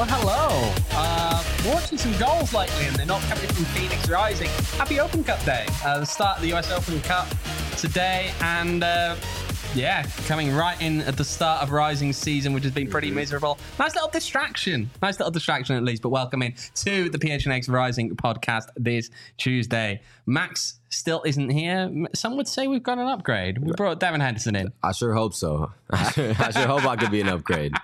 Well, hello. Watching some goals lately, and they're not coming from Phoenix Rising. Happy Open Cup Day. The start of the US Open Cup today, and coming right in at the start of Rising season, which has been pretty miserable. Nice little distraction at least. But welcome in to the PHNX Rising podcast this Tuesday. Max still isn't here. Some would say we've got an upgrade. We brought Devin Henderson in. I sure hope so. I sure hope I could be an upgrade.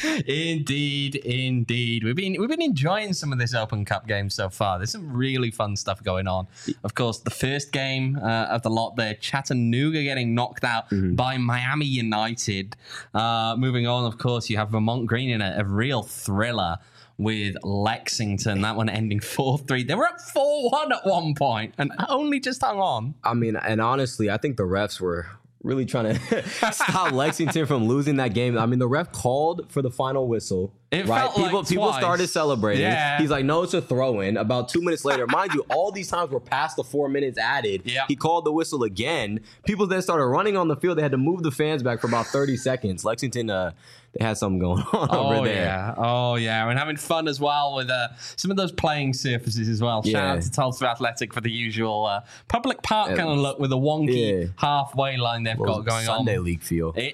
Indeed. We've been enjoying some of this Open Cup game so far. There's some really fun stuff going on. Of course, the first game of the lot there, Chattanooga getting knocked out by Miami United. Moving on, of course, you have Vermont Green in a real thriller with Lexington. That one ending 4-3. They were up 4-1 at one point and only just hung on. I mean, and honestly, I think the refs were really trying to stop Lexington from losing that game. I mean, the ref called for the final whistle. People started celebrating. Yeah. He's like, no, it's a throw-in. About 2 minutes later, mind you, all these times were past the 4 minutes added. Yeah. He called the whistle again. People then started running on the field. They had to move the fans back for about 30 seconds. Lexington, they had something going on over there. Oh, yeah. And having fun as well with some of those playing surfaces as well. Shout out to Tulsa Athletic for the usual public park kind of look with a wonky halfway line they've got going on. Sunday league feel. It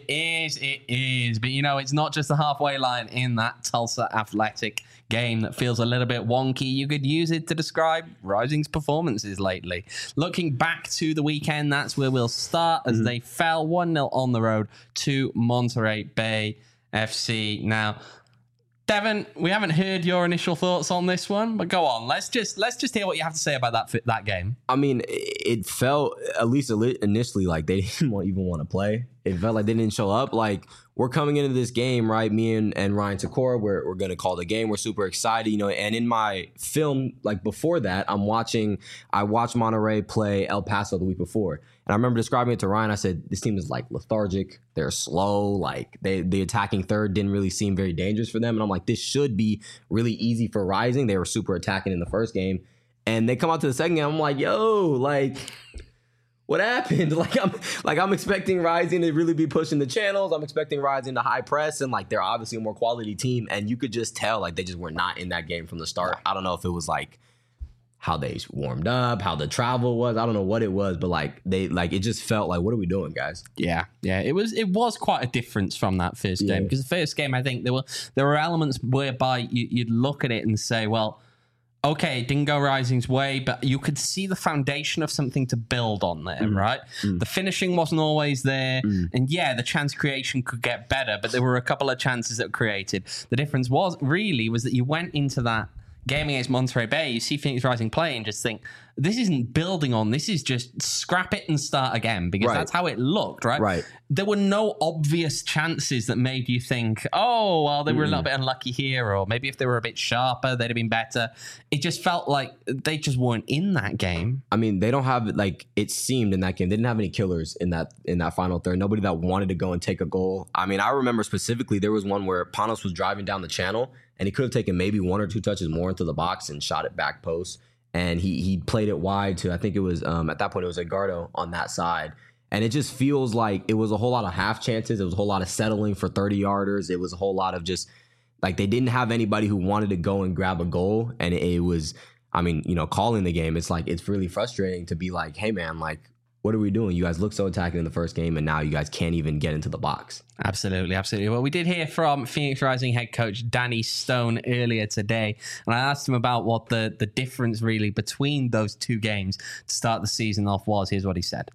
is. But, it's not just the halfway line in that Tulsa Athletic game that feels a little bit wonky. You could use it to describe Rising's performances lately. Looking back to the weekend, that's where we'll start as they fell 1-0 on the road to Monterey Bay FC. Now, Devin, we haven't heard your initial thoughts on this one, but go on. Let's just hear what you have to say about that game. I mean, it felt, at least initially, like they didn't even want to play. It felt like they didn't show up. Like, we're coming into this game, right? Me and Ryan Takora, we're going to call the game. We're super excited, and in my film, like before that, I watched Monterey play El Paso the week before. And I remember describing it to Ryan. I said, this team is like lethargic. They're slow. Like the attacking third didn't really seem very dangerous for them. And I'm like, this should be really easy for Rising. They were super attacking in the first game. And they come out to the second game. I'm like, what happened? I'm expecting Rising to really be pushing the channels. I'm expecting Rising to high press, and like they're obviously a more quality team. And you could just tell like they just were not in that game from the start. I don't know if it was like how they warmed up, how the travel was. I don't know what it was, but it just felt like, what are we doing, guys? Yeah. It was quite a difference from that first game, because the first game, I think there were elements whereby you'd look at it and say, well, okay, it didn't go Rising's way, but you could see the foundation of something to build on there, right? The finishing wasn't always there. And the chance creation could get better, but there were a couple of chances that were created. The difference was that you went into that game against Monterey Bay, you see Phoenix Rising play and just think, this isn't building on, this is just scrap it and start again, because that's how it looked, right? Right. There were no obvious chances that made you think, oh, well, they were a little bit unlucky here, or maybe if they were a bit sharper, they'd have been better. It just felt like they just weren't in that game. I mean, they don't have, like, it seemed in that game, they didn't have any killers in that final third. Nobody that wanted to go and take a goal. I mean, I remember specifically there was one where Panos was driving down the channel, and he could have taken maybe one or two touches more into the box and shot it back post. And he played it wide to, I think it was, at that point, it was Edgardo on that side. And it just feels like it was a whole lot of half chances. It was a whole lot of settling for 30-yarders. It was a whole lot of just, like, they didn't have anybody who wanted to go and grab a goal. And it was, I mean, calling the game, it's like, it's really frustrating to be like, hey, man, like, what are we doing? You guys look so attacking in the first game, and now you guys can't even get into the box. Absolutely. Well, we did hear from Phoenix Rising head coach Danny Stone earlier today, and I asked him about what the difference really between those two games to start the season off was. Here's what he said.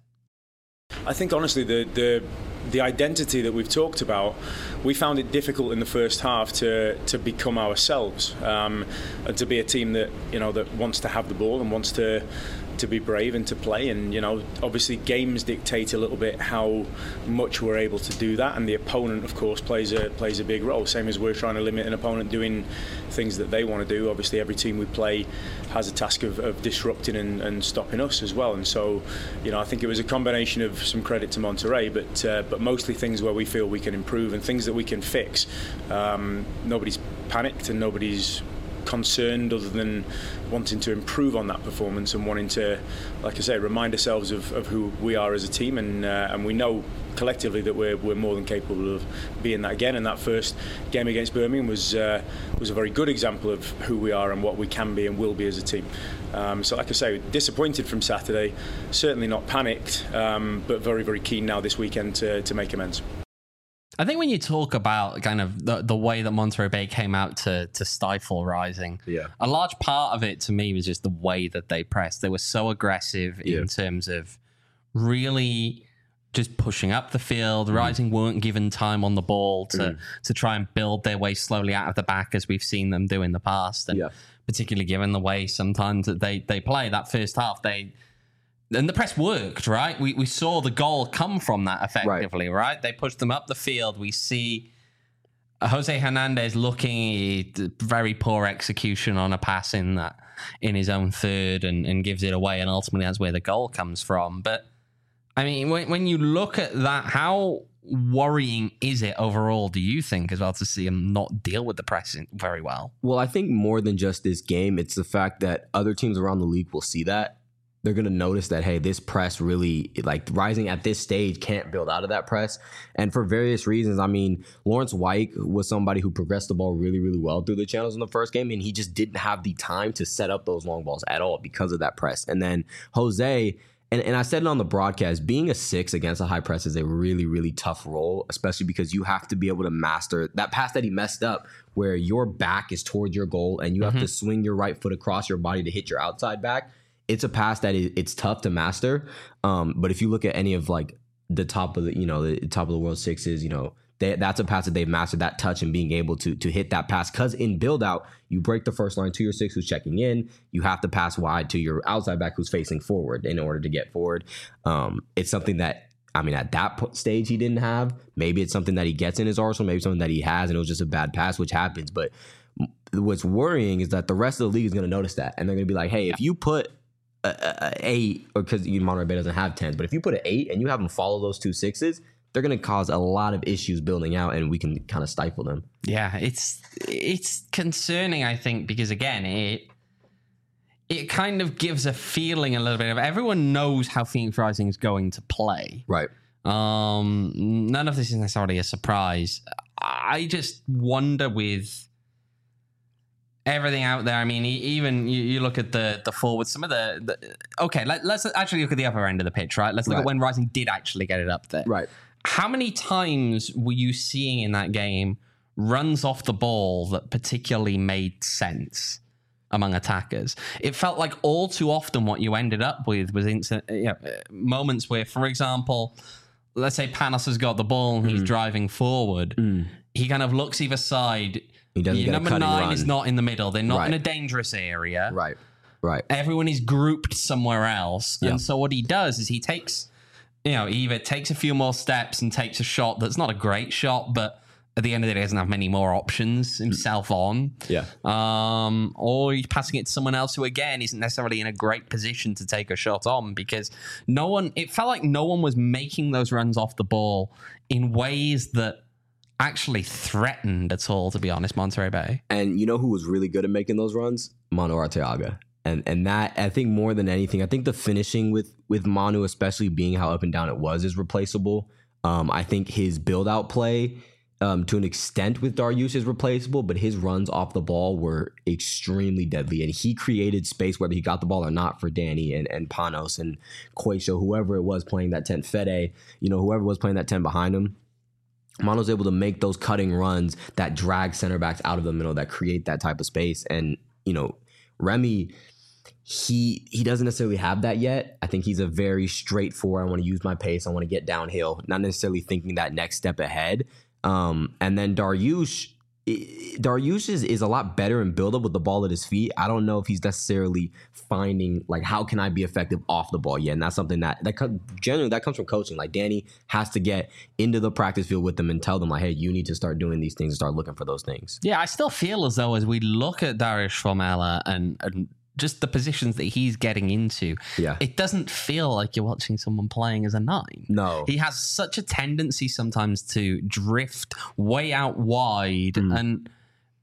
I think, honestly, the identity that we've talked about, we found it difficult in the first half to become ourselves, and to be a team that that wants to have the ball and wants to be brave and to play. And obviously games dictate a little bit how much we're able to do that, and the opponent, of course, plays a big role. Same as we're trying to limit an opponent doing things that they want to do. Obviously every team we play has a task of disrupting and stopping us as well. And so I think it was a combination of some credit to Monterey, but mostly things where we feel we can improve and things that we can fix. Nobody's panicked and nobody's concerned other than wanting to improve on that performance and wanting to, like I say, remind ourselves of who we are as a team, and we know collectively that we're more than capable of being that again. And that first game against Birmingham was a very good example of who we are and what we can be and will be as a team. So like I say, disappointed from Saturday, certainly not panicked, but very, very keen now this weekend to make amends. I think when you talk about kind of the way that Monterey Bay came out to stifle Rising, a large part of it to me was just the way that they pressed. They were so aggressive in terms of really just pushing up the field. Rising weren't given time on the ball to try and build their way slowly out of the back as we've seen them do in the past. And particularly given the way sometimes that they play that first half, and the press worked, right? We saw the goal come from that effectively, right? They pushed them up the field. We see Jose Hernandez looking very poor execution on a pass in his own third and gives it away. And ultimately, that's where the goal comes from. But I mean, when you look at that, how worrying is it overall, do you think, as well, to see him not deal with the press very well? Well, I think more than just this game, it's the fact that other teams around the league will see that. They're going to notice that, hey, this press really, like, Rising at this stage can't build out of that press. And for various reasons, I mean, Lawrence White was somebody who progressed the ball really, really well through the channels in the first game, and he just didn't have the time to set up those long balls at all because of that press. And then Jose, and I said it on the broadcast, being a 6 against a high press is a really, really tough role, especially because you have to be able to master that pass that he messed up where your back is towards your goal and you have to swing your right foot across your body to hit your outside back. It's a pass that it's tough to master. But if you look at any of like the top of the top of the world sixes, that's a pass that they've mastered, that touch and being able to hit that pass. Because in build out, you break the first line to your 6 who's checking in. You have to pass wide to your outside back who's facing forward in order to get forward. It's something that, I mean, at that stage he didn't have. Maybe it's something that he gets in his arsenal. Maybe something that he has, and it was just a bad pass, which happens. But what's worrying is that the rest of the league is going to notice that, and they're going to be like, hey, if you put a 8, or because Monterey Bay doesn't have 10s, but if you put an 8 and you have them follow those 2 6s, they're going to cause a lot of issues building out, and we can kind of stifle them. Yeah, it's concerning, I think, because again, it kind of gives a feeling a little bit of everyone knows how Phoenix Rising is going to play. Right. None of this is necessarily a surprise. I just wonder with everything out there. I mean, even you look at the forwards, some of okay, let's actually look at the upper end of the pitch, right? Let's look at when Rising did actually get it up there. Right. How many times were you seeing in that game runs off the ball that particularly made sense among attackers? It felt like all too often what you ended up with was moments where, for example, let's say Panos has got the ball and he's driving forward. He kind of looks either side. Number 9 is not in the middle. They're not in a dangerous area. Right. Everyone is grouped somewhere else. And so what he does is he takes, he either takes a few more steps and takes a shot that's not a great shot, but at the end of the day, he doesn't have many more options himself on. Yeah. Or he's passing it to someone else who, again, isn't necessarily in a great position to take a shot on, because it felt like no one was making those runs off the ball in ways that actually threatened at all, to be honest, Monterey Bay. And you know who was really good at making those runs? Manu Arteaga. And that, I think more than anything, I think the finishing with Manu, especially being how up and down it was, is replaceable. I think his build-out play, to an extent with Dariush, is replaceable, but his runs off the ball were extremely deadly. And he created space, whether he got the ball or not, for Danny and Panos and Quaisho, whoever it was playing that 10, Fede, whoever was playing that 10 behind him. Mano's able to make those cutting runs that drag center backs out of the middle, that create that type of space. And, Remy, he doesn't necessarily have that yet. I think he's a very straightforward, I want to use my pace, I want to get downhill, not necessarily thinking that next step ahead. And then Dariush is a lot better in build-up with the ball at his feet. I don't know if he's necessarily finding, like, how can I be effective off the ball yet? And that's something that generally comes from coaching. Like, Danny has to get into the practice field with them and tell them, like, hey, you need to start doing these things and start looking for those things. Yeah, I still feel as though as we look at Dariush Formella and just the positions that he's getting into, it doesn't feel like you're watching someone playing as a 9. No. He has such a tendency sometimes to drift way out wide. And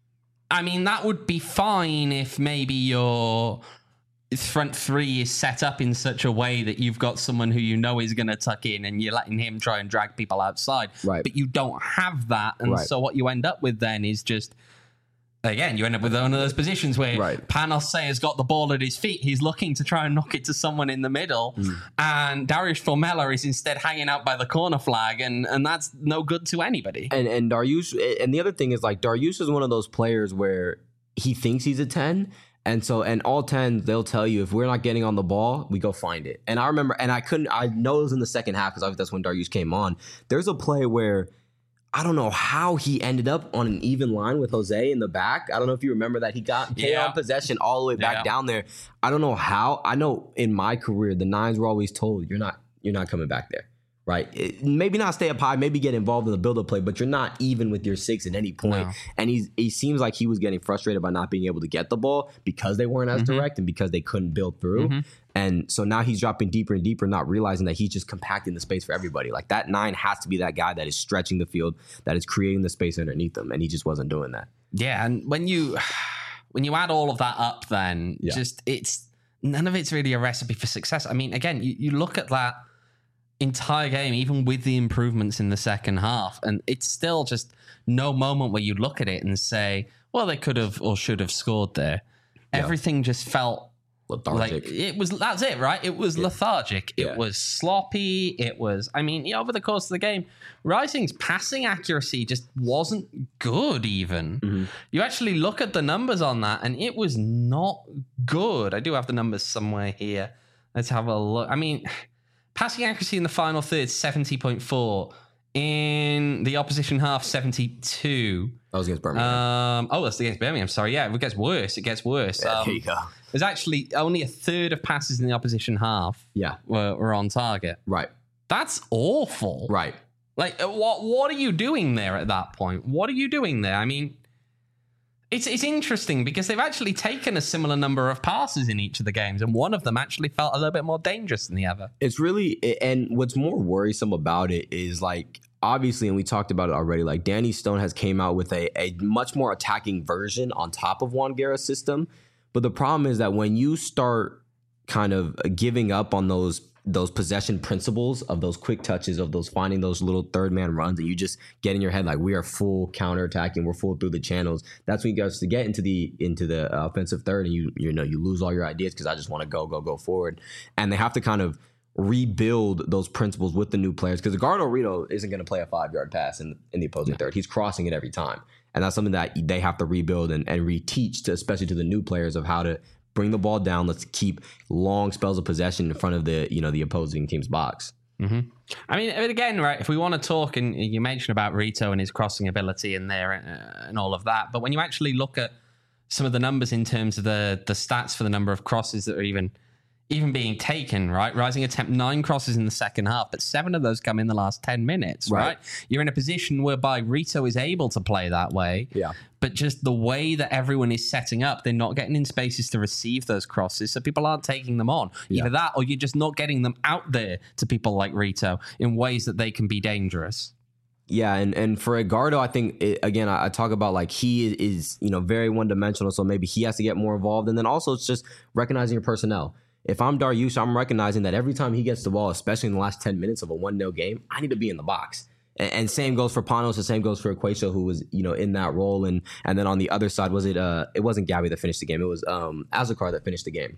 I mean, that would be fine if maybe your front three is set up in such a way that you've got someone who you know is going to tuck in and you're letting him try and drag people outside. Right. But you don't have that. And Right. so what you end up with then is just, again, you end up with one of those positions where Right. Panos has got the ball at his feet. He's looking to try and knock it to someone in the middle. And Darius Formella is instead hanging out by the corner flag. And that's no good to anybody. And Darius, and the other thing is like Darius is one of those players where he thinks he's a 10. And so, and all 10s, they'll tell you if we're not getting on the ball, we go find it. And I remember, and I know it was in the second half because that's when Darius came on. There's a play where I don't know how he ended up on an even line with Jose in the back. I don't know if you remember that. He got on possession all the way back down there. I don't know how. I know in my career, the 9s were always told, you're not coming back there. Right, maybe not stay up high, maybe get involved in the build-up play, but you're not even with your 6 at any point. No. And he seems like he was getting frustrated by not being able to get the ball because they weren't as direct and because they couldn't build through. And so now he's dropping deeper and deeper, not realizing that he's just compacting the space for everybody. Like that 9 has to be that guy that is stretching the field, that is creating the space underneath them, and he just wasn't doing that. Yeah, and when you add all of that up, then just it's none of it's really a recipe for success. I mean, again, you look at that entire game, even with the improvements in the second half, and it's still just no moment where you look at it and say, well, they could have or should have scored there. Everything just felt lethargic. Like that's it, right? It was lethargic. It was sloppy. It was, I mean, over the course of the game, Rising's passing accuracy just wasn't good even. You actually look at the numbers on that and it was not good. I do have the numbers somewhere here. Let's have a look. I mean, passing accuracy in the final third, 70.4. In the opposition half, 72. That was against Birmingham. That's against Birmingham. Sorry, yeah, it gets worse. It gets worse. Yeah, there you go. There's actually only a third of passes in the opposition half were on target. Right. That's awful. Right. Like, what are you doing there at that point? What are you doing there? I mean, it's interesting because they've actually taken a similar number of passes in each of the games, and one of them actually felt a little bit more dangerous than the other. It's really, and what's more worrisome about it is like, obviously, and we talked about it already, like Danny Stone has came out with a much more attacking version on top of Juan Guerra's system. But the problem is that when you start kind of giving up on those possession principles of those quick touches, of those finding those little third man runs, and you just get in your head like we are full counterattacking, we're full through the channels. That's when you guys to get into the offensive third, and you lose all your ideas because I just want to go forward, and they have to kind of rebuild those principles with the new players because Edgardo Rito isn't going to play a 5-yard pass in the opposing third. He's crossing it every time, and that's something that they have to rebuild and reteach to, especially to the new players, of how to bring the ball down. Let's keep long spells of possession in front of the opposing team's box. I mean, again, right, if we want to talk, and you mentioned about Rito and his crossing ability in there and all of that, but when you actually look at some of the numbers in terms of the stats for the number of crosses that are even being taken, right? Rising attempt 9 crosses in the second half, but 7 of those come in the last 10 minutes, right? You're in a position whereby Rito is able to play that way. Yeah. But just the way that everyone is setting up, they're not getting in spaces to receive those crosses, so people aren't taking them on. Either that, or you're just not getting them out there to people like Rito in ways that they can be dangerous. Yeah, and for Edgardo, I think, I talk about like he is very one-dimensional, so maybe he has to get more involved. And then also it's just recognizing your personnel. If I'm Darius, I'm recognizing that every time he gets the ball, especially in the last 10 minutes of a 1-0 game, I need to be in the box. And same goes for Panos, the same goes for Equacio, who was, in that role. And then on the other side, it wasn't Gabby that finished the game. It was Azakar that finished the game.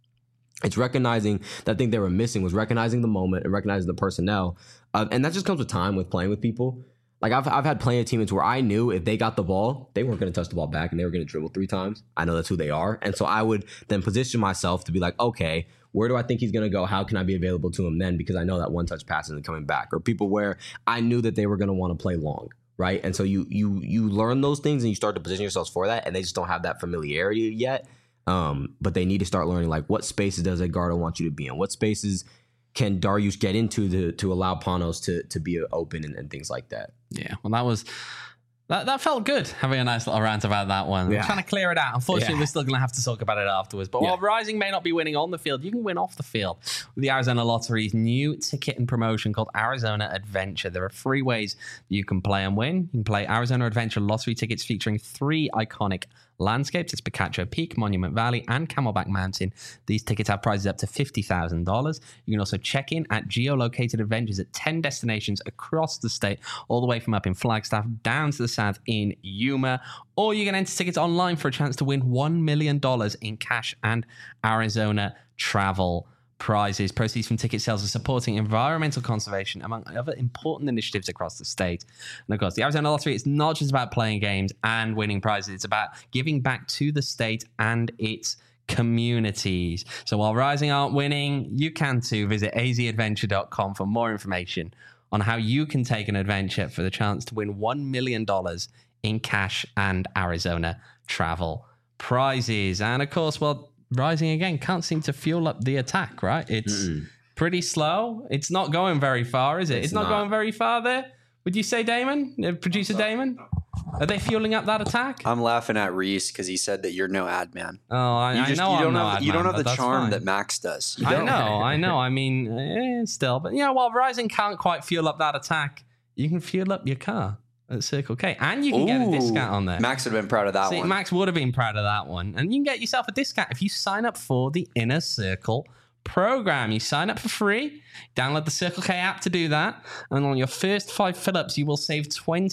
It's recognizing that thing they were missing was recognizing the moment and recognizing the personnel. And that just comes with time, with playing with people. Like I've had plenty of teammates where I knew if they got the ball, they weren't going to touch the ball back and they were going to dribble 3 times. I know that's who they are. And so I would then position myself to be like, okay, where do I think he's going to go? How can I be available to him then? Because I know that one-touch pass isn't coming back. Or people where I knew that they were going to want to play long, right? And so you learn those things and you start to position yourselves for that, and they just don't have that familiarity yet. But they need to start learning, like, what spaces does Edgardo want you to be in? What spaces can Darius get into to allow Panos to be open and things like that? Yeah, well, that was That felt good, having a nice little rant about that one. Yeah. I'm trying to clear it out. Unfortunately, we're still going to have to talk about it afterwards. But while Rising may not be winning on the field, you can win off the field with the Arizona Lottery's new ticket and promotion called Arizona Adventure. There are 3 ways you can play and win. You can play Arizona Adventure lottery tickets featuring 3 iconic landscapes. It's Picacho Peak, Monument Valley, and Camelback Mountain. These tickets have prizes up to $50,000. You can also check in at geolocated adventures at 10 destinations across the state, all the way from up in Flagstaff down to the south in Yuma. Or you can enter tickets online for a chance to win $1 million in cash and Arizona travel prizes. Proceeds from ticket sales are supporting environmental conservation, among other important initiatives across the state. And of course, the Arizona Lottery, it's not just about playing games and winning prizes. It's about giving back to the state and its communities. So while Rising aren't winning, you can too. Visit azadventure.com for more information on how you can take an adventure for the chance to win $1 million in cash and Arizona travel prizes. And of course, well, Rising again can't seem to fuel up the attack, right? It's pretty slow. It's not going very far, is it? It's not going very far there. Would you say, Damon? Producer Damon? Are they fueling up that attack? I'm laughing at Reese because he said that you're no ad man. Oh, I know I'm no ad man. You don't have the charm fine. that Max does. I know. I mean, still. But, while Rising can't quite fuel up that attack, you can fuel up your car at Circle K. And you can get a discount on there. Max would have been proud of that one. Max would have been proud of that one. And you can get yourself a discount if you sign up for the Inner Circle program. You sign up for free, download the Circle K app to do that, and on your first 5 fill-ups, you will save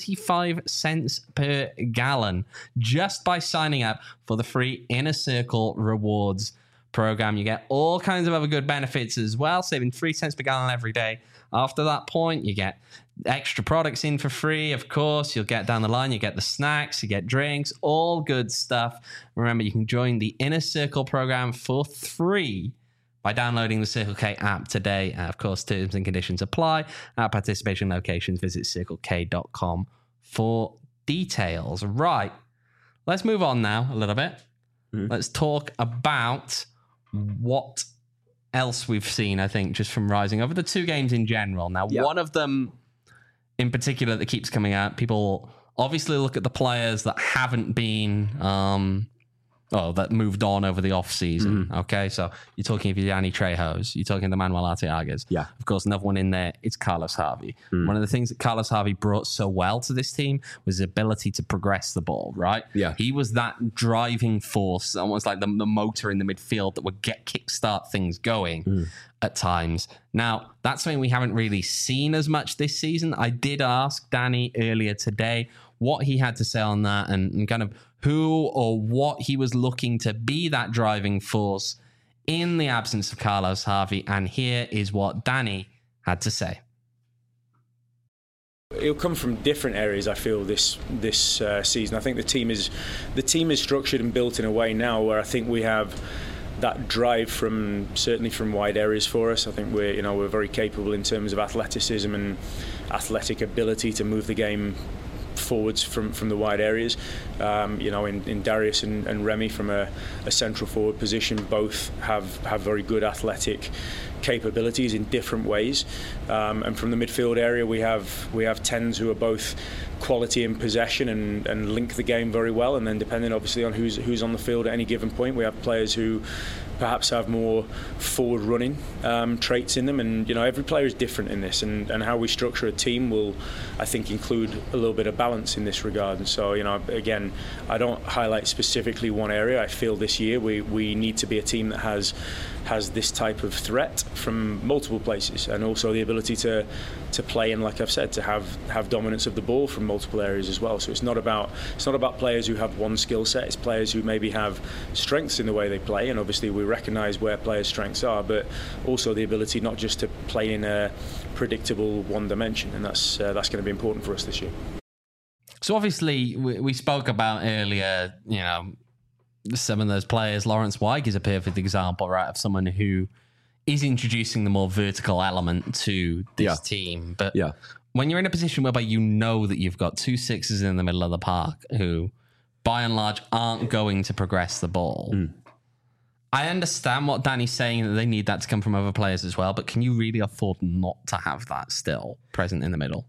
25 cents per gallon just by signing up for the free Inner Circle Rewards program. You get all kinds of other good benefits as well, saving 3 cents per gallon every day. After that point, you get extra products in for free, of course. You'll get down the line, you get the snacks, you get drinks, all good stuff. Remember, you can join the Inner Circle program for free by downloading the Circle K app today. Of course, terms and conditions apply. At participation locations, visit circlek.com for details. Right. Let's move on now a little bit. Let's talk about what else we've seen, I think, just from Rising over the 2 games in general. Now, one of them in particular that keeps coming out, people obviously look at the players that haven't been, that moved on over the offseason. Okay, so you're talking of Yanni Trejos, you're talking the Manuel Arteagas. Yeah. Of course, another one in there, it's Carlos Harvey. One of the things that Carlos Harvey brought so well to this team was his ability to progress the ball, right? Yeah. He was that driving force, almost like the motor in the midfield that would kickstart things going at times. Now, that's something we haven't really seen as much this season. I did ask Danny earlier today what he had to say on that and kind of who or what he was looking to be that driving force in the absence of Carlos Harvey. And here is what Danny had to say. It'll come from different areas. I feel this season. I think the team is structured and built in a way now where I think we have that drive certainly from wide areas for us. I think we're very capable in terms of athleticism and athletic ability to move the game forwards from the wide areas. In Darius and Remy from a central forward position, both have very good athletic capabilities in different ways. And from the midfield area, we have tens who are both quality in possession and link the game very well. And then depending obviously on who's on the field at any given point, we have players who perhaps have more forward running traits in them. And every player is different in this, and how we structure a team will, I think, include a little bit of balance in this regard. And so again, I don't highlight specifically one area. I feel this year we need to be a team that has this type of threat from multiple places, and also the ability to play, and like I've said, to have dominance of the ball from multiple areas as well. So it's not about players who have one skill set. It's players who maybe have strengths in the way they play, and obviously we recognise where players' strengths are, but also the ability not just to play in a predictable one dimension, and that's going to be important for us this year. So obviously we spoke about earlier, some of those players. Lawrence Weig is a perfect example, right, of someone who is introducing the more vertical element to this team. But when you're in a position whereby you know that you've got 2 6s in the middle of the park who, by and large, aren't going to progress the ball, I understand what Danny's saying, that they need that to come from other players as well, but can you really afford not to have that still present in the middle?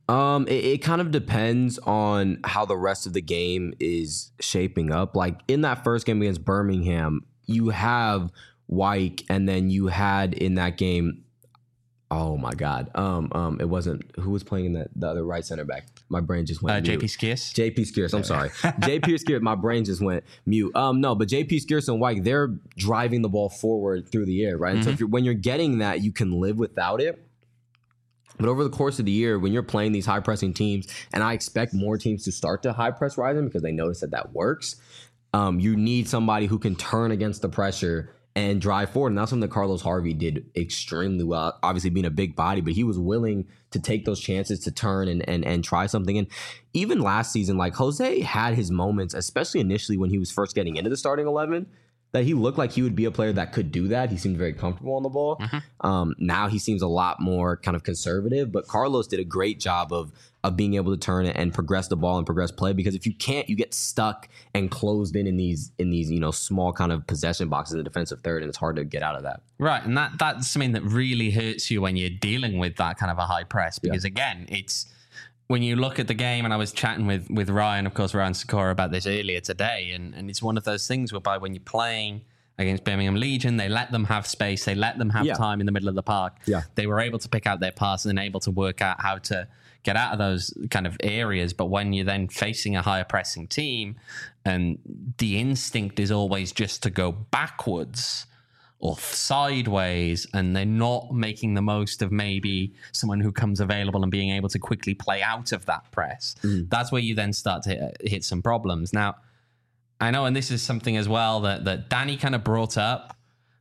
It kind of depends on how the rest of the game is shaping up. Like in that first game against Birmingham, you have Wyke, and then you had in that game, oh my God, it wasn't who was playing in the other right center back. My brain just went mute. JP Skeers. JP Skeers, I'm sorry. JP Skeers, my brain just went mute. No, but JP Skeers and Wyke, they're driving the ball forward through the air, right? And so when you're getting that, you can live without it. But over the course of the year, when you're playing these high pressing teams, and I expect more teams to start to high press Ryzen because they notice that works, you need somebody who can turn against the pressure and drive forward. And that's something that Carlos Harvey did extremely well, obviously being a big body, but he was willing to take those chances to turn and try something. And even last season, like Jose had his moments, especially initially when he was first getting into the starting 11, that he looked like he would be a player that could do that. He seemed very comfortable on the ball. Now he seems a lot more kind of conservative, but Carlos did a great job of being able to turn it and progress the ball and progress play, because if you can't, you get stuck and closed in these small kind of possession boxes in the defensive third, and it's hard to get out of that. Right, and that's something that really hurts you when you're dealing with that kind of a high press, because again, it's when you look at the game, and I was chatting with Ryan, of course, Ryan Sikora, about this earlier today, and it's one of those things whereby when you're playing against Birmingham Legion, they let them have space, they let them have time in the middle of the park. They were able to pick out their pass and able to work out how to get out of those kind of areas. But when you're then facing a higher pressing team, and the instinct is always just to go backwards or sideways, and they're not making the most of maybe someone who comes available and being able to quickly play out of that press, that's where you then start to hit some problems. Now, I know, and this is something as well that Danny kind of brought up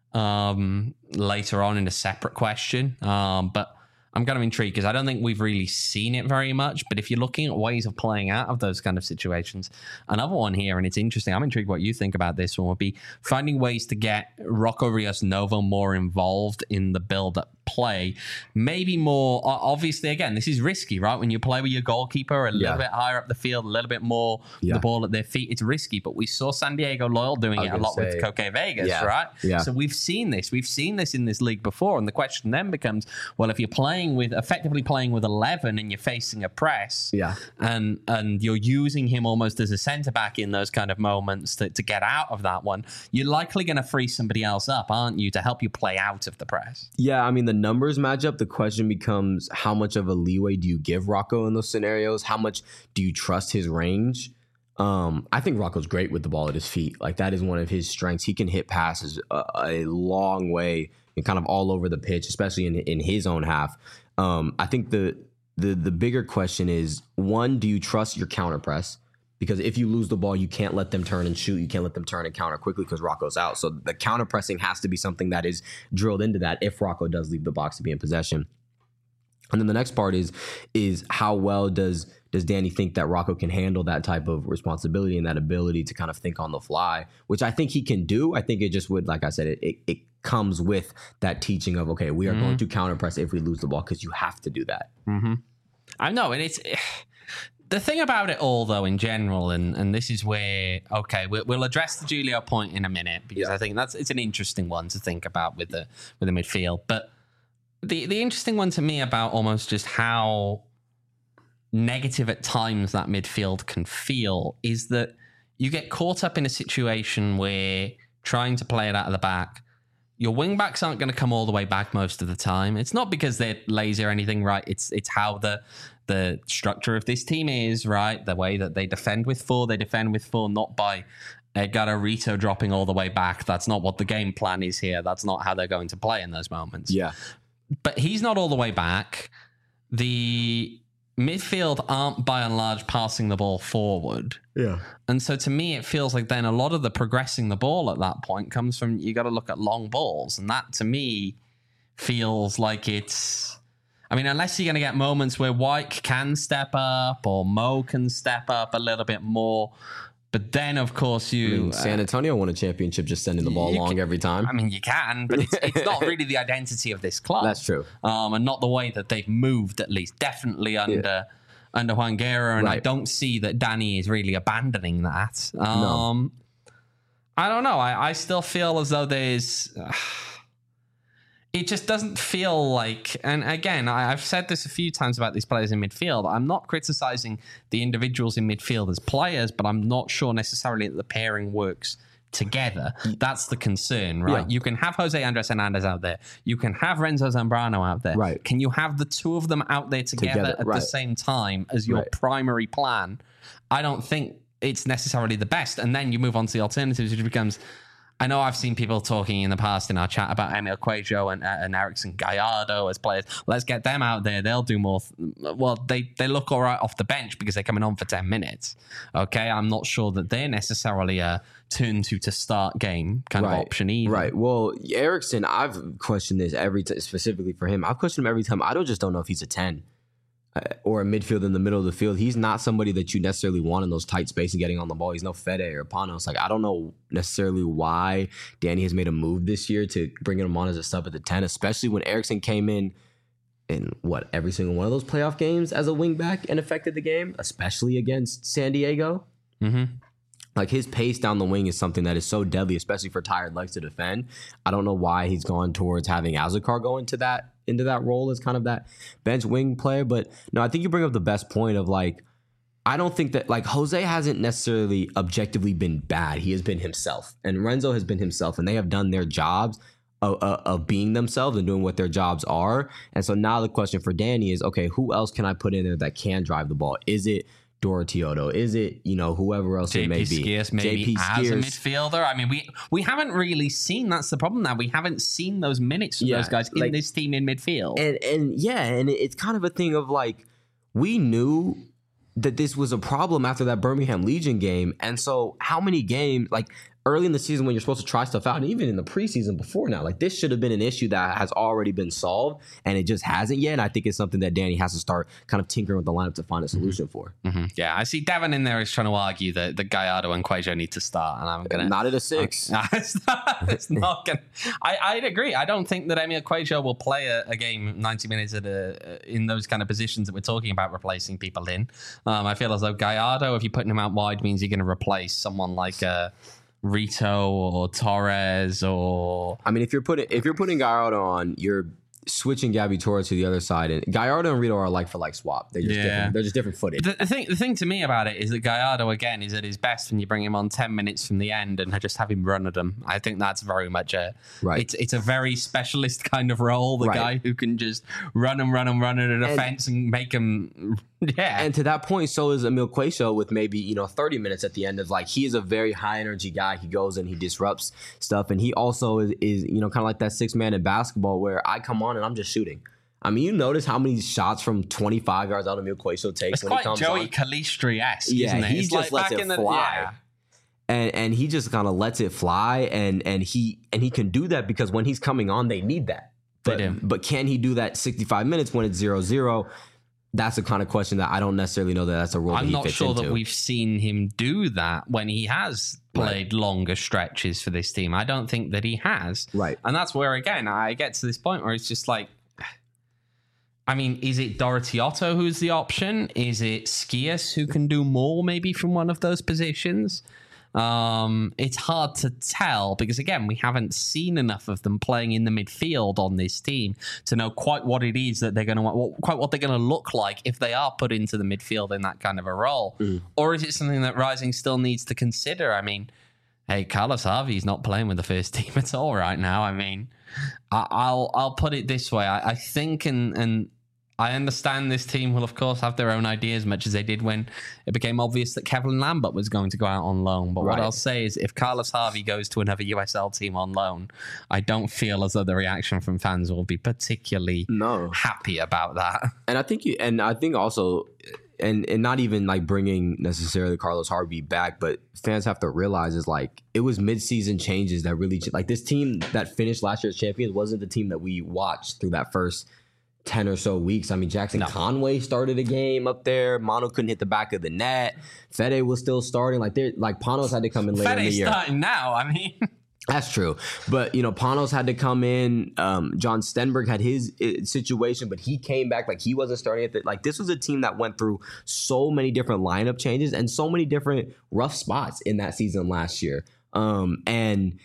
later on in a separate question, but I'm kind of intrigued because I don't think we've really seen it very much. But if you're looking at ways of playing out of those kind of situations, another one here, and it's interesting, I'm intrigued what you think about this one, would be finding ways to get Rocco Rios Novo more involved in the build-up play. Maybe more, obviously, again, this is risky, right? When you play with your goalkeeper a little bit higher up the field, a little bit more the ball at their feet, it's risky. But we saw San Diego Loyal doing it a lot with Koke Vegas, right? So we've seen this. We've seen this in this league before. And the question then becomes, well, if you're effectively playing with 11 and you're facing a press, and you're using him almost as a centre-back in those kind of moments to get out of that one, you're likely going to free somebody else up, aren't you, to help you play out of the press? Yeah, I mean, the numbers match up. The question becomes, how much of a leeway do you give Rocco in those scenarios? How much do you trust his range? I think Rocco's great with the ball at his feet. Like, that is one of his strengths. He can hit passes a long way and kind of all over the pitch, especially in his own half. I think the bigger question is, one, do you trust your counter press? Because if you lose the ball, you can't let them turn and shoot. You can't let them turn and counter quickly because Rocco's out. So the counter pressing has to be something that is drilled into that if Rocco does leave the box to be in possession. And then the next part is how well does Danny think that Rocco can handle that type of responsibility and that ability to kind of think on the fly, which I think he can do. I think it just would, like I said, it comes with that teaching of, okay, we are going to counter press if we lose the ball, because you have to do that. I know, and it's... The thing about it all, though, in general, and this is where, okay, we'll address the Julio point in a minute, because I think it's an interesting one to think about with the midfield. But the interesting one to me about almost just how negative at times that midfield can feel is that you get caught up in a situation where trying to play it out of the back, your wing backs aren't going to come all the way back most of the time. It's not because they're lazy or anything, right? It's how the structure of this team is, right? The way that they defend with four not by Edgardo Rito dropping all the way back. That's not what the game plan is here. That's not how they're going to play in those moments. Yeah. But he's not all the way back. The midfield aren't by and large passing the ball forward. Yeah. And so to me, it feels like then a lot of the progressing the ball at that point comes from, you got to look at long balls. And that to me feels like it's, I mean, unless you're going to get moments where Wyke can step up or Mo can step up a little bit more. But then, of course, San Antonio won a championship just sending the ball long every time. I mean, you can, but it's not really the identity of this club. That's true. And not the way that they've moved, at least. Definitely under Juan Guerra. And I don't see that Danny is really abandoning that. No. I don't know. I still feel as though there's... it just doesn't feel like, and again, I've said this a few times about these players in midfield. I'm not criticizing the individuals in midfield as players, but I'm not sure necessarily that the pairing works together. That's the concern, right? Yeah. You can have Jose Andres Hernandez out there. You can have Renzo Zambrano out there. Right. Can you have the two of them out there together at the same time as your primary plan? I don't think it's necessarily the best. And then you move on to the alternatives, which becomes... I know I've seen people talking in the past in our chat about Emil Cuello and Erickson Gallardo as players. Let's get them out there. They'll do more. They look all right off the bench because they're coming on for 10 minutes. Okay, I'm not sure that they're necessarily a turn to start game kind of option either. Right. Well, Erickson, I've questioned this every time, specifically for him. I've questioned him every time. I just don't know if he's a 10. Or a midfield in the middle of the field. He's not somebody that you necessarily want in those tight spaces getting on the ball. He's no Fede or Panos. Like, I don't know necessarily why Danny has made a move this year to bring him on as a sub at the 10, especially when Erickson came in every single one of those playoff games as a wingback and affected the game, especially against San Diego. Mm-hmm. Like, his pace down the wing is something that is so deadly, especially for tired legs to defend. I don't know why he's gone towards having Azúcar go into that role as kind of that bench wing player. But no, I think you bring up the best point of, like, I don't think that, like, Jose hasn't necessarily objectively been bad. He has been himself, and Renzo has been himself, and they have done their jobs of being themselves and doing what their jobs are. And so now the question for Danny is, okay, who else can I put in there that can drive the ball? Is it Dorotioto? Is it, whoever else it may be? Skiers, maybe as a midfielder. I mean, we haven't really seen, that's the problem now. We haven't seen those minutes from those guys in this team in midfield. And it's kind of a thing of, like, we knew that this was a problem after that Birmingham Legion game. And so how many games, like, early in the season when you're supposed to try stuff out, and even in the preseason before now, like, this should have been an issue that has already been solved, and it just hasn't yet. And I think it's something that Danny has to start kind of tinkering with the lineup to find a solution for. Mm-hmm. Yeah, I see Devin in there is trying to argue that Gallardo and Cuello need to start, and I'm going to... Not at a 6. It's not going to... I'd agree. I don't think that Emil Cuello will play a game 90 minutes in those kind of positions that we're talking about replacing people in. I feel as though Gallardo, if you're putting him out wide, means you're going to replace someone like... Rito or Torres or... I mean, if you're putting Gallardo on, you're switching Gabby Torres to the other side, and Gallardo and Rito are like for like swap. They're just different. They're just different footage. The thing to me about it is that Gallardo again is at his best when you bring him on 10 minutes from the end and just have him run at them. I think that's very much it's a very specialist kind of role. The guy who can just run at a defense and make him. Yeah. And to that point, so is Emil Cuello with maybe 30 minutes at the end of, like, he is a very high energy guy. He goes and he disrupts stuff, and he also is kind of like that 6 man in basketball where I come on and I'm just shooting. I mean, you notice how many shots from 25 yards out Emil Cuello takes when he comes on. It's quite Joey Calistri-esque, isn't it? He just lets it fly. And he just kind of lets it fly, and he can do that because when he's coming on, they need that. But can he do that 65 minutes when it's 0-0? That's the kind of question that I don't necessarily know that's a role that he fits into. I'm not sure that we've seen him do that when he has played longer stretches for this team. I don't think that he has. Right. And that's where, again, I get to this point where it's just like, I mean, is it Dorotioto who's the option? Is it Skias who can do more maybe from one of those positions? It's hard to tell because, again, we haven't seen enough of them playing in the midfield on this team to know quite what it is that they're going to quite what they're going to look like if they are put into the midfield in that kind of a role. Or is it something that Rising still needs to consider? I mean, hey, Carlos Harvey's not playing with the first team at all right now. I mean, I'll put it this way. I think and I understand this team will, of course, have their own ideas, much as they did when it became obvious that Kevin Lambert was going to go out on loan. But what I'll say is if Carlos Harvey goes to another USL team on loan, I don't feel as though the reaction from fans will be particularly happy about that. And I think also, and not even like bringing necessarily Carlos Harvey back, but fans have to realize is like it was mid-season changes that really, like, this team that finished last year's champions wasn't the team that we watched through that first 10 or so weeks. I mean, Jackson Conway started a game up there. Manu couldn't hit the back of the net. Fede was still starting. Like Panos had to come in later in the year. Fede's starting now. I mean, that's true. But, Panos had to come in. John Stenberg had his situation, but he came back. Like, he wasn't starting at like, this was a team that went through so many different lineup changes and so many different rough spots in that season last year. And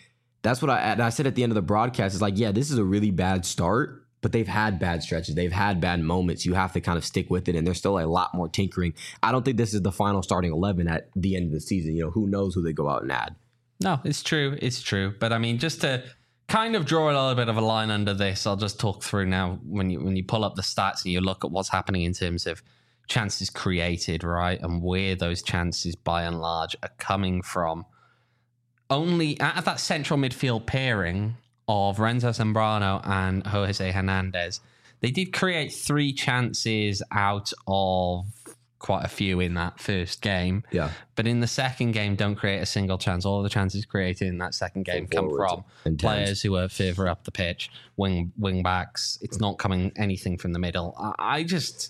that's what I said at the end of the broadcast. It's like, yeah, this is a really bad start, but they've had bad stretches. They've had bad moments. You have to kind of stick with it, and there's still a lot more tinkering. I don't think this is the final starting 11 at the end of the season. You know, who knows who they go out and add. No, it's true. It's true. But I mean, just to kind of draw a little bit of a line under this, I'll just talk through now when you pull up the stats and you look at what's happening in terms of chances created, right? And where those chances by and large are coming from. Only out of that central midfield pairing of Renzo Zambrano and Jose Hernandez, they did create 3 chances out of quite a few in that first game. Yeah. But in the second game, don't create a single chance. All of the chances created in that second game come from players who are further up the pitch, wing backs. It's not coming anything from the middle. I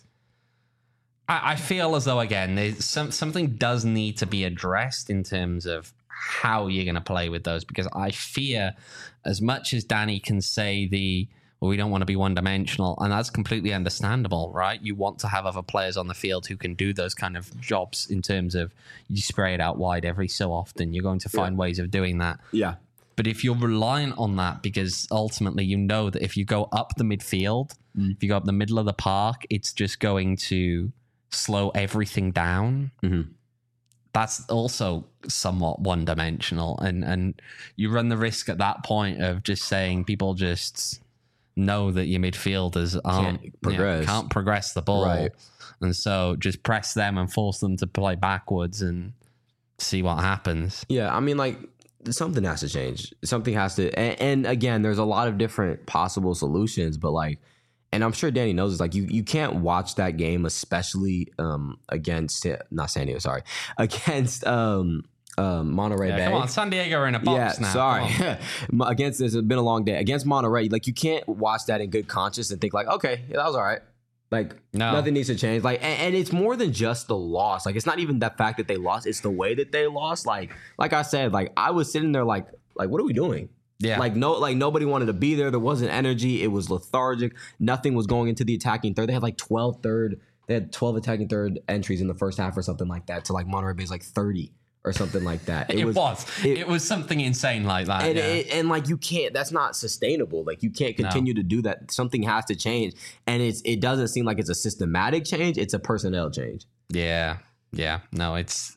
feel as though, again, there's something does need to be addressed in terms of how you're going to play with those, because I fear, as much as Danny can say we don't want to be one-dimensional, and that's completely understandable, right? You want to have other players on the field who can do those kind of jobs in terms of you spray it out wide every so often. You're going to find ways of doing that. Yeah. But if you're reliant on that, because ultimately you know that if you go up the midfield, if you go up the middle of the park, it's just going to slow everything down. Mm-hmm. That's also somewhat one-dimensional. And you run the risk at that point of just saying people just know that your midfielders can't progress the ball. Right. And so just press them and force them to play backwards and see what happens. Yeah, I mean, like, something has to change. Something has to... And again, there's a lot of different possible solutions, but like... And I'm sure Danny knows this. Like, you can't watch that game, especially against... Not San Diego, sorry. Against... Monterey Bay. Come on, San Diego are in a box now. Sorry. Against this, it's been a long day. Against Monterey, like, you can't watch that in good conscience and think like, okay, yeah, that was all right. Like, nothing needs to change. Like, and it's more than just the loss. Like, it's not even the fact that they lost. It's the way that they lost. Like I said, like, I was sitting there like, what are we doing? Yeah. Like nobody wanted to be there. There wasn't energy. It was lethargic. Nothing was going into the attacking third. They had like 12 attacking third entries in the first half or something like that, to like Monterey Bay's like 30. Or something like that. It was something insane like that. And like, you can't, that's not sustainable. Like, you can't continue to do that. Something has to change. And it doesn't seem like it's a systematic change. It's a personnel change. Yeah. Yeah. No, it's,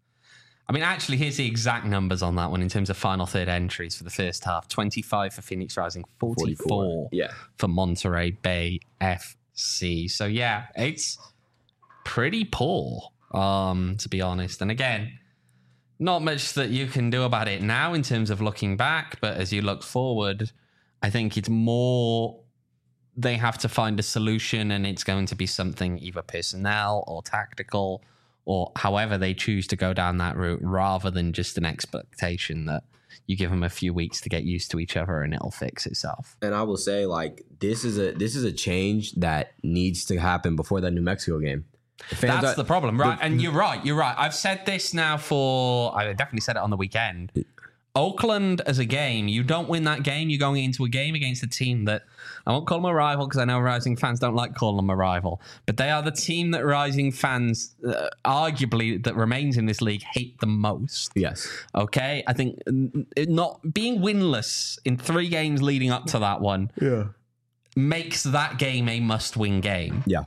I mean, actually, here's the exact numbers on that one in terms of final third entries for the first half. 25 for Phoenix Rising, 44 for Monterey Bay FC. So yeah, it's pretty poor, to be honest. And again, not much that you can do about it now in terms of looking back, but as you look forward, I think it's more they have to find a solution, and it's going to be something either personnel or tactical or however they choose to go down that route, rather than just an expectation that you give them a few weeks to get used to each other and it'll fix itself. And I will say, like, this is a change that needs to happen before that New Mexico game. That's the problem, right? And you're right. I've said this now I definitely said it on the weekend. Oakland as a game, you don't win that game. You're going into a game against a team that, I won't call them a rival because I know Rising fans don't like calling them a rival, but they are the team that Rising fans, arguably, that remains in this league, hate the most. Yes. Okay? I think not being winless in 3 games leading up to that one makes that game a must-win game. Yeah.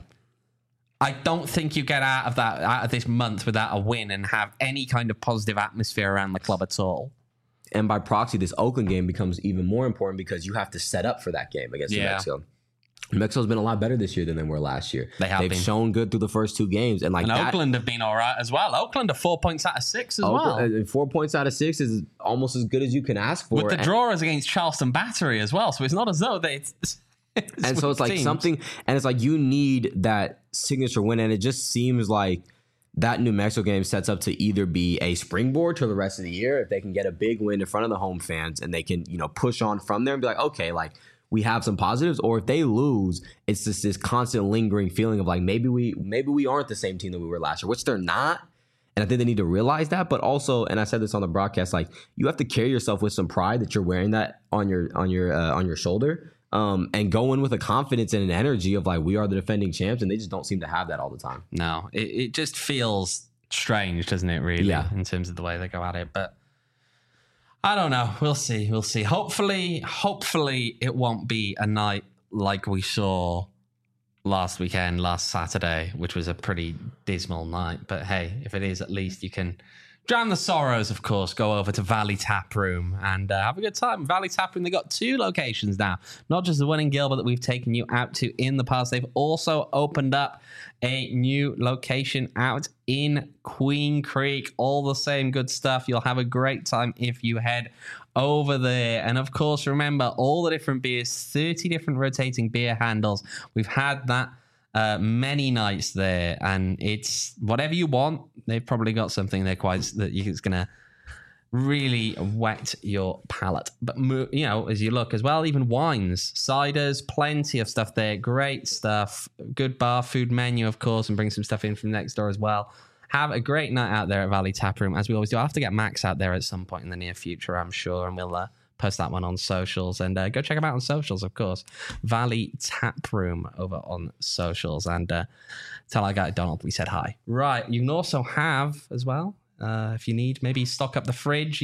I don't think you get out of this month without a win and have any kind of positive atmosphere around the club at all. And by proxy, this Oakland game becomes even more important because you have to set up for that game against New Mexico. New Mexico's been a lot better this year than they were last year. They've shown good through the first 2 games. And Oakland have been all right as well. Oakland are 4 points out of 6 as well. And 4 points out of 6 is almost as good as you can ask for. With the drawers against Charleston Battery as well. So it's not as though they... And so it's like something, and it's like you need that signature win, and it just seems like that New Mexico game sets up to either be a springboard to the rest of the year if they can get a big win in front of the home fans and they can, push on from there and be like, okay, like, we have some positives, or if they lose, it's just this constant lingering feeling of like maybe we aren't the same team that we were last year, which they're not. And I think they need to realize that, but also, and I said this on the broadcast, like, you have to carry yourself with some pride that you're wearing that on your shoulder. And go in with a confidence and an energy of like, we are the defending champs, and they just don't seem to have that all the time. No, it just feels strange, doesn't it, really, in terms of the way they go at it. But I don't know. We'll see. We'll see. Hopefully it won't be a night like we saw last weekend, last Saturday, which was a pretty dismal night. But hey, if it is, at least you can drown the sorrows, of course. Go over to Valley Tap Room and have a good time. Valley Tap Room, they got 2 locations now. Not just the one in Gilbert that we've taken you out to in the past. They've also opened up a new location out in Queen Creek. All the same good stuff. You'll have a great time if you head over there. And of course, remember all the different beers, 30 different rotating beer handles. We've had that many nights there, and it's whatever you want. They've probably got something there it's going to really whet your palate. But as you look as well, even wines, ciders, plenty of stuff there. Great stuff. Good bar food menu, of course, and bring some stuff in from next door as well. Have a great night out there at Valley Tap Room, as we always do. I'll have to get Max out there at some point in the near future, I'm sure, and we'll post that one on socials. And go check them out on socials, of course. Valley Tap Room over on socials. And tell our guy Donald we said hi. Right. You can also have, as well, if you need, maybe stock up the fridge.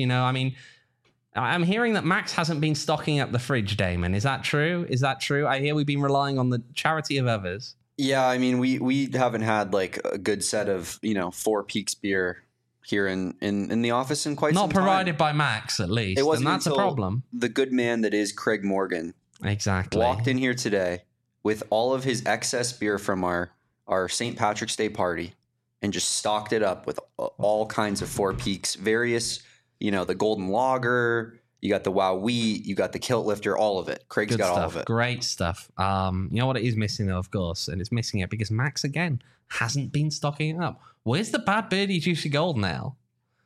I'm hearing that Max hasn't been stocking up the fridge, Damon. Is that true? I hear we've been relying on the charity of others. Yeah, I mean, we haven't had like a good set of, Four Peaks beer here in the office in quite some time. Not provided by Max, at least. It wasn't and that's a problem. The good man that is Craig Morgan exactly walked in here today with all of his excess beer from our St. Patrick's Day party and just stocked it up with all kinds of Four Peaks, various, the Golden Lager. You got the Wow Wheat, you got the Kilt Lifter, all of it. Craig's got all of it. Great stuff. You know what it is missing, though, of course, and it's missing it because Max, again, hasn't been stocking it up. Where's the Bad Birdie Juicy Golden Ale?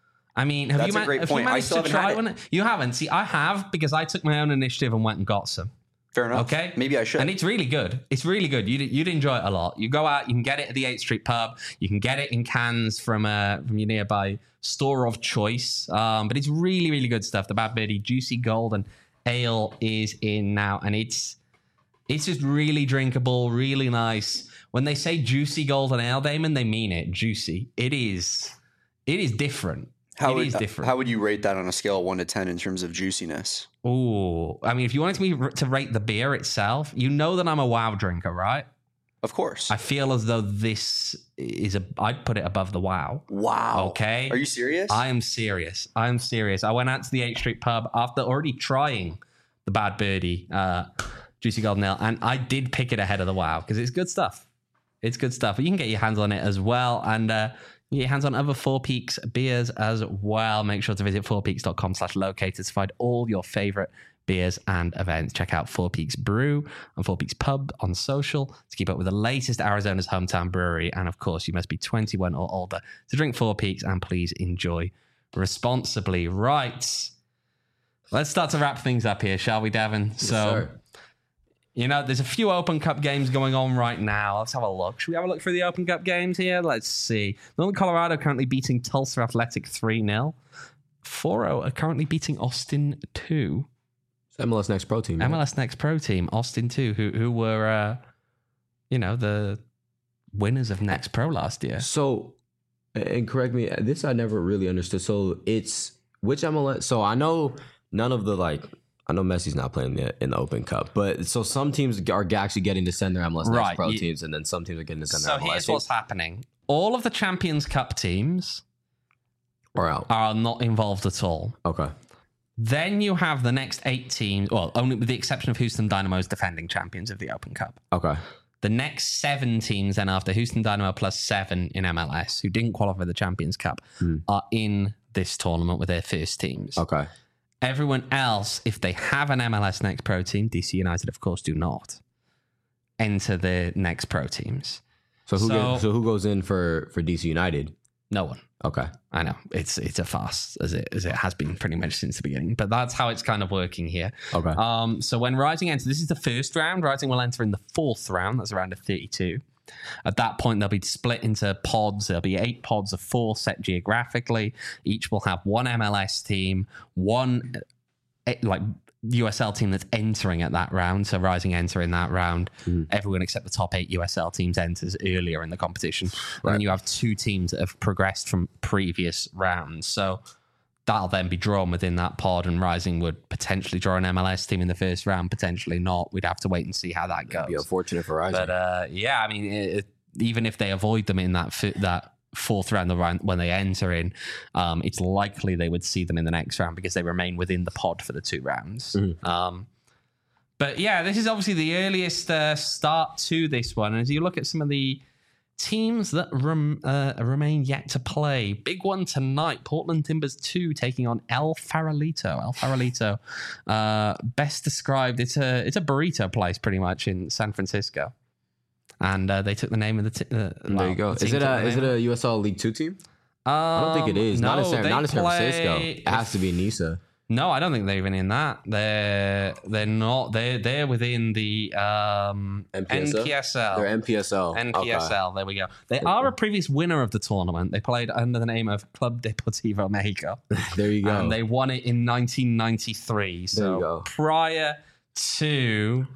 I mean, have That's you a great point. managed to try one? You haven't. See, I have because I took my own initiative and went and got some. Fair enough. Okay. Maybe I should. And it's really good. It's really good. You'd enjoy it a lot. You go out, you can get it at the 8th Street Pub. You can get it in cans from your nearby store of choice. But it's really, really good stuff. The Bad Birdie Juicy Golden Ale is in now, and it's just really drinkable, really nice. When they say Juicy Golden Ale, Damon, they mean it. Juicy. It is different. How would you rate that on a scale of 1 to 10 in terms of juiciness? Oh, I mean, if you wanted me to rate the beer itself, you know that I'm a WoW drinker, right? Of course. I feel as though this is I'd put it above the WoW. Wow. Okay. Are you serious? I am serious. I went out to the 8th Street Pub after already trying the Bad Birdie Juicy Golden Ale, and I did pick it ahead of the WoW because it's good stuff. It's good stuff. But you can get your hands on it as well, and you get your hands on other Four Peaks beers as well. Make sure to visit fourpeaks.com/locators to find all your favorite beers and events. Check out Four Peaks Brew and Four Peaks Pub on social to keep up with the latest Arizona's hometown brewery. And of course, you must be 21 or older to drink Four Peaks, and please enjoy responsibly. Right. Let's start to wrap things up here, shall we, Devin? Yes, sir. There's a few Open Cup games going on right now. Let's have a look. Should we have a look through the Open Cup games here? Let's see. Northern Colorado currently beating Tulsa Athletic 3-0. Foro are currently beating Austin 2. MLS Next Pro Team. MLS Next Pro Team, Austin 2, who were, the winners of Next Pro last year. So, and correct me, this I never really understood. So it's which MLS? So I know none of the I know Messi's not playing in the Open Cup, but so some teams are actually getting to send their MLS Next Pro teams, and then some teams are getting to send their MLS teams. So here's what's happening. All of the Champions Cup teams are not involved at all. Okay. Then you have the next 8 teams, well, only with the exception of Houston Dynamo's defending champions of the Open Cup. Okay. The next 7 teams then after Houston Dynamo plus 7 in MLS who didn't qualify for the Champions Cup are in this tournament with their first teams. Okay. Everyone else, if they have an MLS Next Pro team, DC United, of course, do not enter the Next Pro teams. So who goes in for DC United? No one. Okay. I know. It's a farce as it has been pretty much since the beginning, but that's how it's kind of working here. Okay. So when Rising enters, this is the first round. Rising will enter in the 4th round. That's a round of 32. At that point, they'll be split into pods. There'll be 8 pods of 4 set geographically. Each will have one MLS team, one USL team that's entering at that round. So Rising enter in that round. Everyone except the top 8 USL teams enters earlier in the competition. Right. And then you have 2 teams that have progressed from previous rounds. So that'll then be drawn within that pod, and Rising would potentially draw an MLS team in the first round, potentially not. We'd have to wait and see how that goes. It'd be unfortunate for Rising. But yeah, I mean, even if they avoid them in that fourth round, the round when they enter in, it's likely they would see them in the next round because they remain within the pod for the 2 rounds. But yeah, this is obviously the earliest start to this one. And as you look at some of the teams that remain yet to play, big one tonight, Portland Timbers 2 taking on El Farolito. El Farolito, best described, it's a burrito place pretty much in San Francisco. And they took the name of the there you go. Is it a USL League 2 team? I don't think it is. No, not in San Francisco. It has to be Nisa. No, I don't think they're even in that. They're not. They're within the NPSL. They're NPSL. NPSL. Okay. There we go. They are a previous winner of the tournament. They played under the name of Club Deportivo Mexico. There you go. And they won it in 1993. So prior to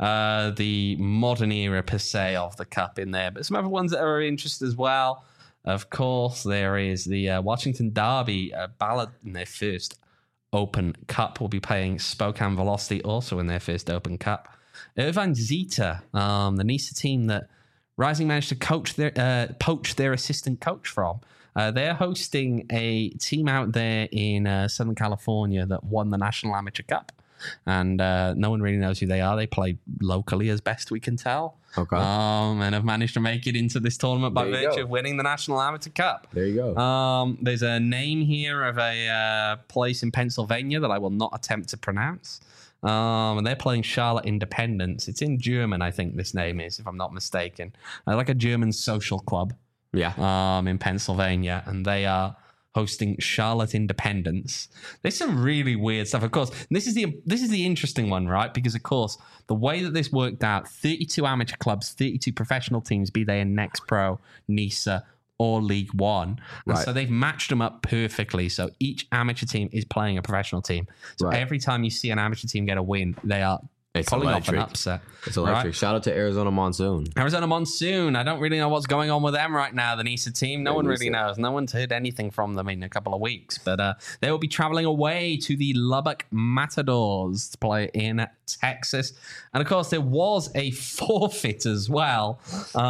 the modern era per se of the cup in there, but some other ones that are of interest as well. Of course, there is the Washington Derby ballot in their first Open Cup. Will be playing Spokane Velocity also in their first Open Cup. Irvine Zeta, the Nisa team that Rising managed to poach their assistant coach from. They're hosting a team out there in Southern California that won the National Amateur Cup. And no one really knows who they are. They play locally as best we can tell. Okay. And have managed to make it into this tournament by virtue of winning the National Amateur Cup. There you go. There's a name here of a place in Pennsylvania that I will not attempt to pronounce. And they're playing Charlotte Independence. It's in German, I think this name is, if I'm not mistaken. Like a German social club. Yeah. In Pennsylvania. And they are hosting Charlotte Independence. There's some really weird stuff. Of course, this is the interesting one, right? Because of course, the way that this worked out, 32 amateur clubs, 32 professional teams, be they in Next Pro, NISA, or League One. And so they've matched them up perfectly. So each amateur team is playing a professional team. So every time you see an amateur team get a win, they are pulling off an upset. It's electric. Right? Shout out to Arizona Monsoon. Arizona Monsoon. I don't really know what's going on with them right now, the NISA team. No one really knows. No one's heard anything from them in a couple of weeks. But they will be traveling away to the Lubbock Matadors to play in Texas. And of course, there was a forfeit as well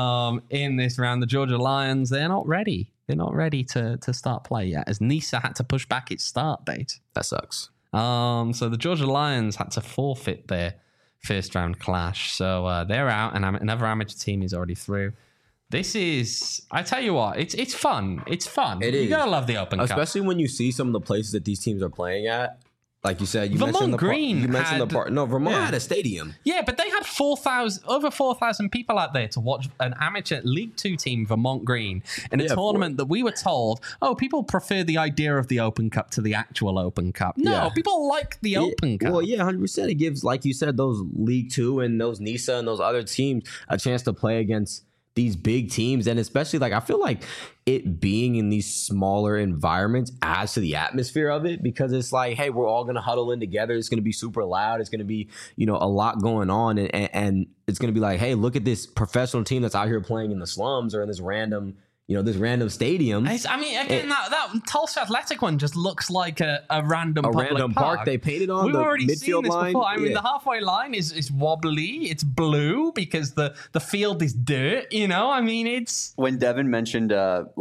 in this round. The Georgia Lions, they're not ready. They're not ready to start play yet, as NISA had to push back its start date. That sucks. So the Georgia Lions had to forfeit their first round clash. So they're out, and another amateur team is already through. This is, I tell you what, it's fun. It's fun. You gotta love the Open Cup. Especially when you see some of the places that these teams are playing at. Like you said, Vermont Green. You mentioned the part. No, Vermont had a stadium. Yeah, but they had over 4,000 people out there to watch an amateur League 2 team, Vermont Green, in a tournament that we were told, people prefer the idea of the Open Cup to the actual Open Cup. No, people like the Open Cup. Well, yeah, 100%. It gives, like you said, those League 2 and those NISA and those other teams a chance to play against these big teams. And especially, like, I feel like it being in these smaller environments adds to the atmosphere of it, because it's like, hey, we're all going to huddle in together. It's going to be super loud. It's going to be, a lot going on. And it's going to be like, hey, look at this professional team that's out here playing in the slums or in this random stadium. That Tulsa Athletic one just looks like a random park they painted on. We've already seen this before. I mean, the halfway line is wobbly. It's blue because the field is dirt. It's when Devin mentioned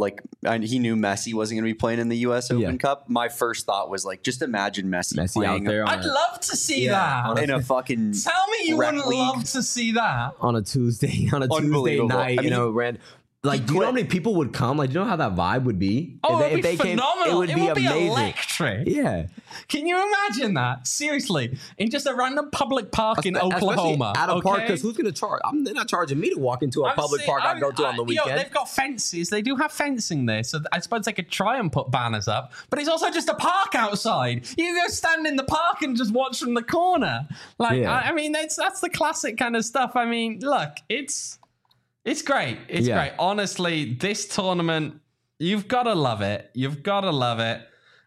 he knew Messi wasn't going to be playing in the U.S. Open Cup. My first thought was like, just imagine Messi playing out there. I'd love to see that in a fucking. Tell me you wouldn't love to see that on a Tuesday night. Random. Like, do you know how many people would come? Like, do you know how that vibe would be? If they phenomenal. Came, it would be amazing. Electric. Yeah. Can you imagine that? Seriously. In just a random public park in Oklahoma. At a park, because who's going to charge? They're not charging me to walk into a public park I go to on the weekend. They've got fences. They do have fencing there. So I suppose they could try and put banners up. But it's also just a park outside. You can go stand in the park and just watch from the corner. Like, that's the classic kind of stuff. I mean, look, It's great. It's great. Honestly, this tournament, you've got to love it. You've got to love it.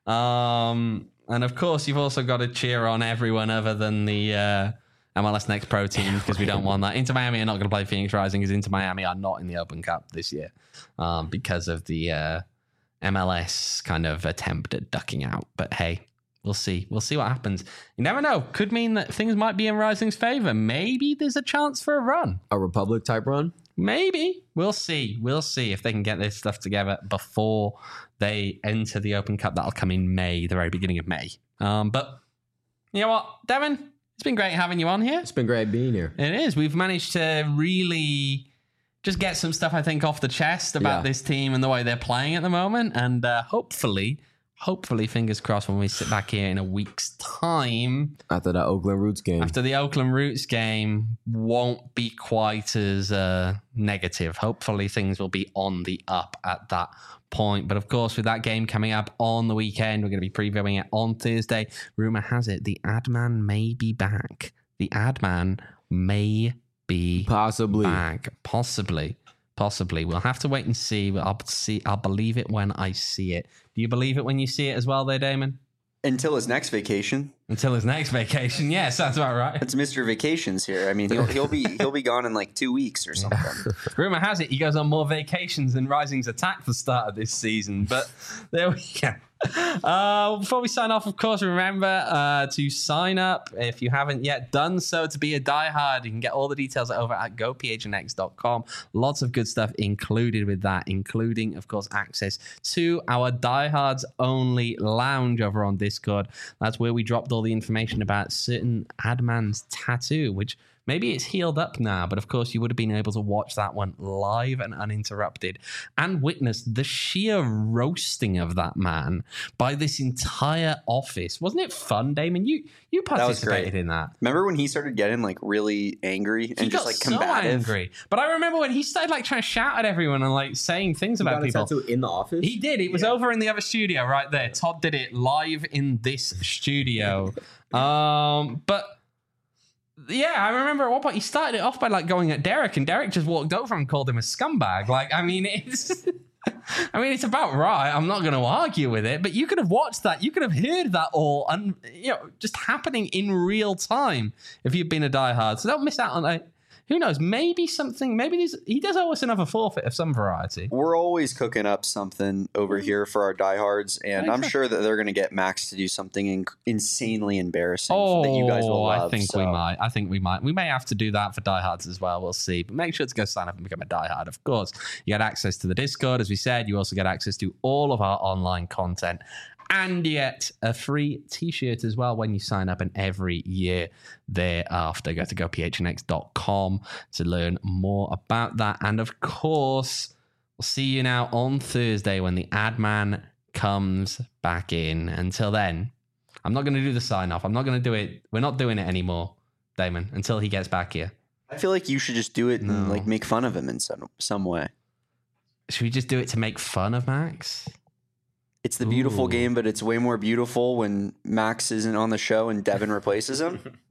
And of course, you've also got to cheer on everyone other than the MLS Next Pro team, because we don't want that. Inter Miami are not going to play Phoenix Rising, because Inter Miami are not in the Open Cup this year because of the MLS kind of attempt at ducking out. But hey, we'll see. We'll see what happens. You never know. Could mean that things might be in Rising's favor. Maybe there's a chance for a run. A Republic type run? Maybe. We'll see. We'll see if they can get this stuff together before they enter the Open Cup. That'll come in May, the very beginning of May. But you know what, Devin? It's been great having you on here. It's been great being here. It is. We've managed to really just get some stuff, I think, off the chest about this team and the way they're playing at the moment. And hopefully, fingers crossed, when we sit back here in a week's time. After the Oakland Roots game. After the Oakland Roots game, won't be quite as negative. Hopefully, things will be on the up at that point. But of course, with that game coming up on the weekend, we're going to be previewing it on Thursday. Rumor has it the Adman may be back. The Adman may be possibly back. Possibly. We'll have to wait and see. I'll believe it when I see it. Do you believe it when you see it as well there, Damon? Until his next vacation. Yeah, sounds about right. It's Mr. Vacations here. I mean, he'll be gone in like 2 weeks or something. Rumor has it he goes on more vacations than Rising's attack for the start of this season. But there we go. Before we sign off, of course, remember to sign up if you haven't yet done so to be a diehard. You can get all the details over at gophnx.com. Lots of good stuff included with that, including, of course, access to our diehards only lounge over on Discord. That's where we dropped all the information about certain Adman's tattoo, which maybe it's healed up now, but of course you would have been able to watch that one live and uninterrupted and witness the sheer roasting of that man by this entire office. Wasn't it fun, Damon? You participated in that. Remember when he started getting like really angry and just like combative? So angry. But I remember when he started like trying to shout at everyone and like saying things about people. Tattoo in the office? He did. It was over in the other studio right there. Todd did it live in this studio. But yeah, I remember at one point he started it off by like going at Derek, and Derek just walked over and called him a scumbag. Like, I mean, it's about right. I'm not going to argue with it, but you could have watched that. You could have heard that all, and just happening in real time if you've been a diehard. So don't miss out on that. Who knows? Maybe he does owe us another forfeit of some variety. We're always cooking up something over here for our diehards, and I'm sure that they're going to get Max to do something insanely embarrassing that you guys will love. I think we might. We may have to do that for diehards as well. We'll see. But make sure to go sign up and become a diehard. Of course, you get access to the Discord, as we said. You also get access to all of our online content. And yet a free t-shirt as well when you sign up, and every year thereafter. Go to gophnx.com to learn more about that. And of course, we'll see you now on Thursday when the Adman comes back in. Until then, I'm not going to do the sign-off. I'm not going to do it. We're not doing it anymore, Damon, until he gets back here. I feel like you should just do it and like make fun of him in some way. Should we just do it to make fun of Max? It's the beautiful game, but it's way more beautiful when Max isn't on the show and Devin replaces him.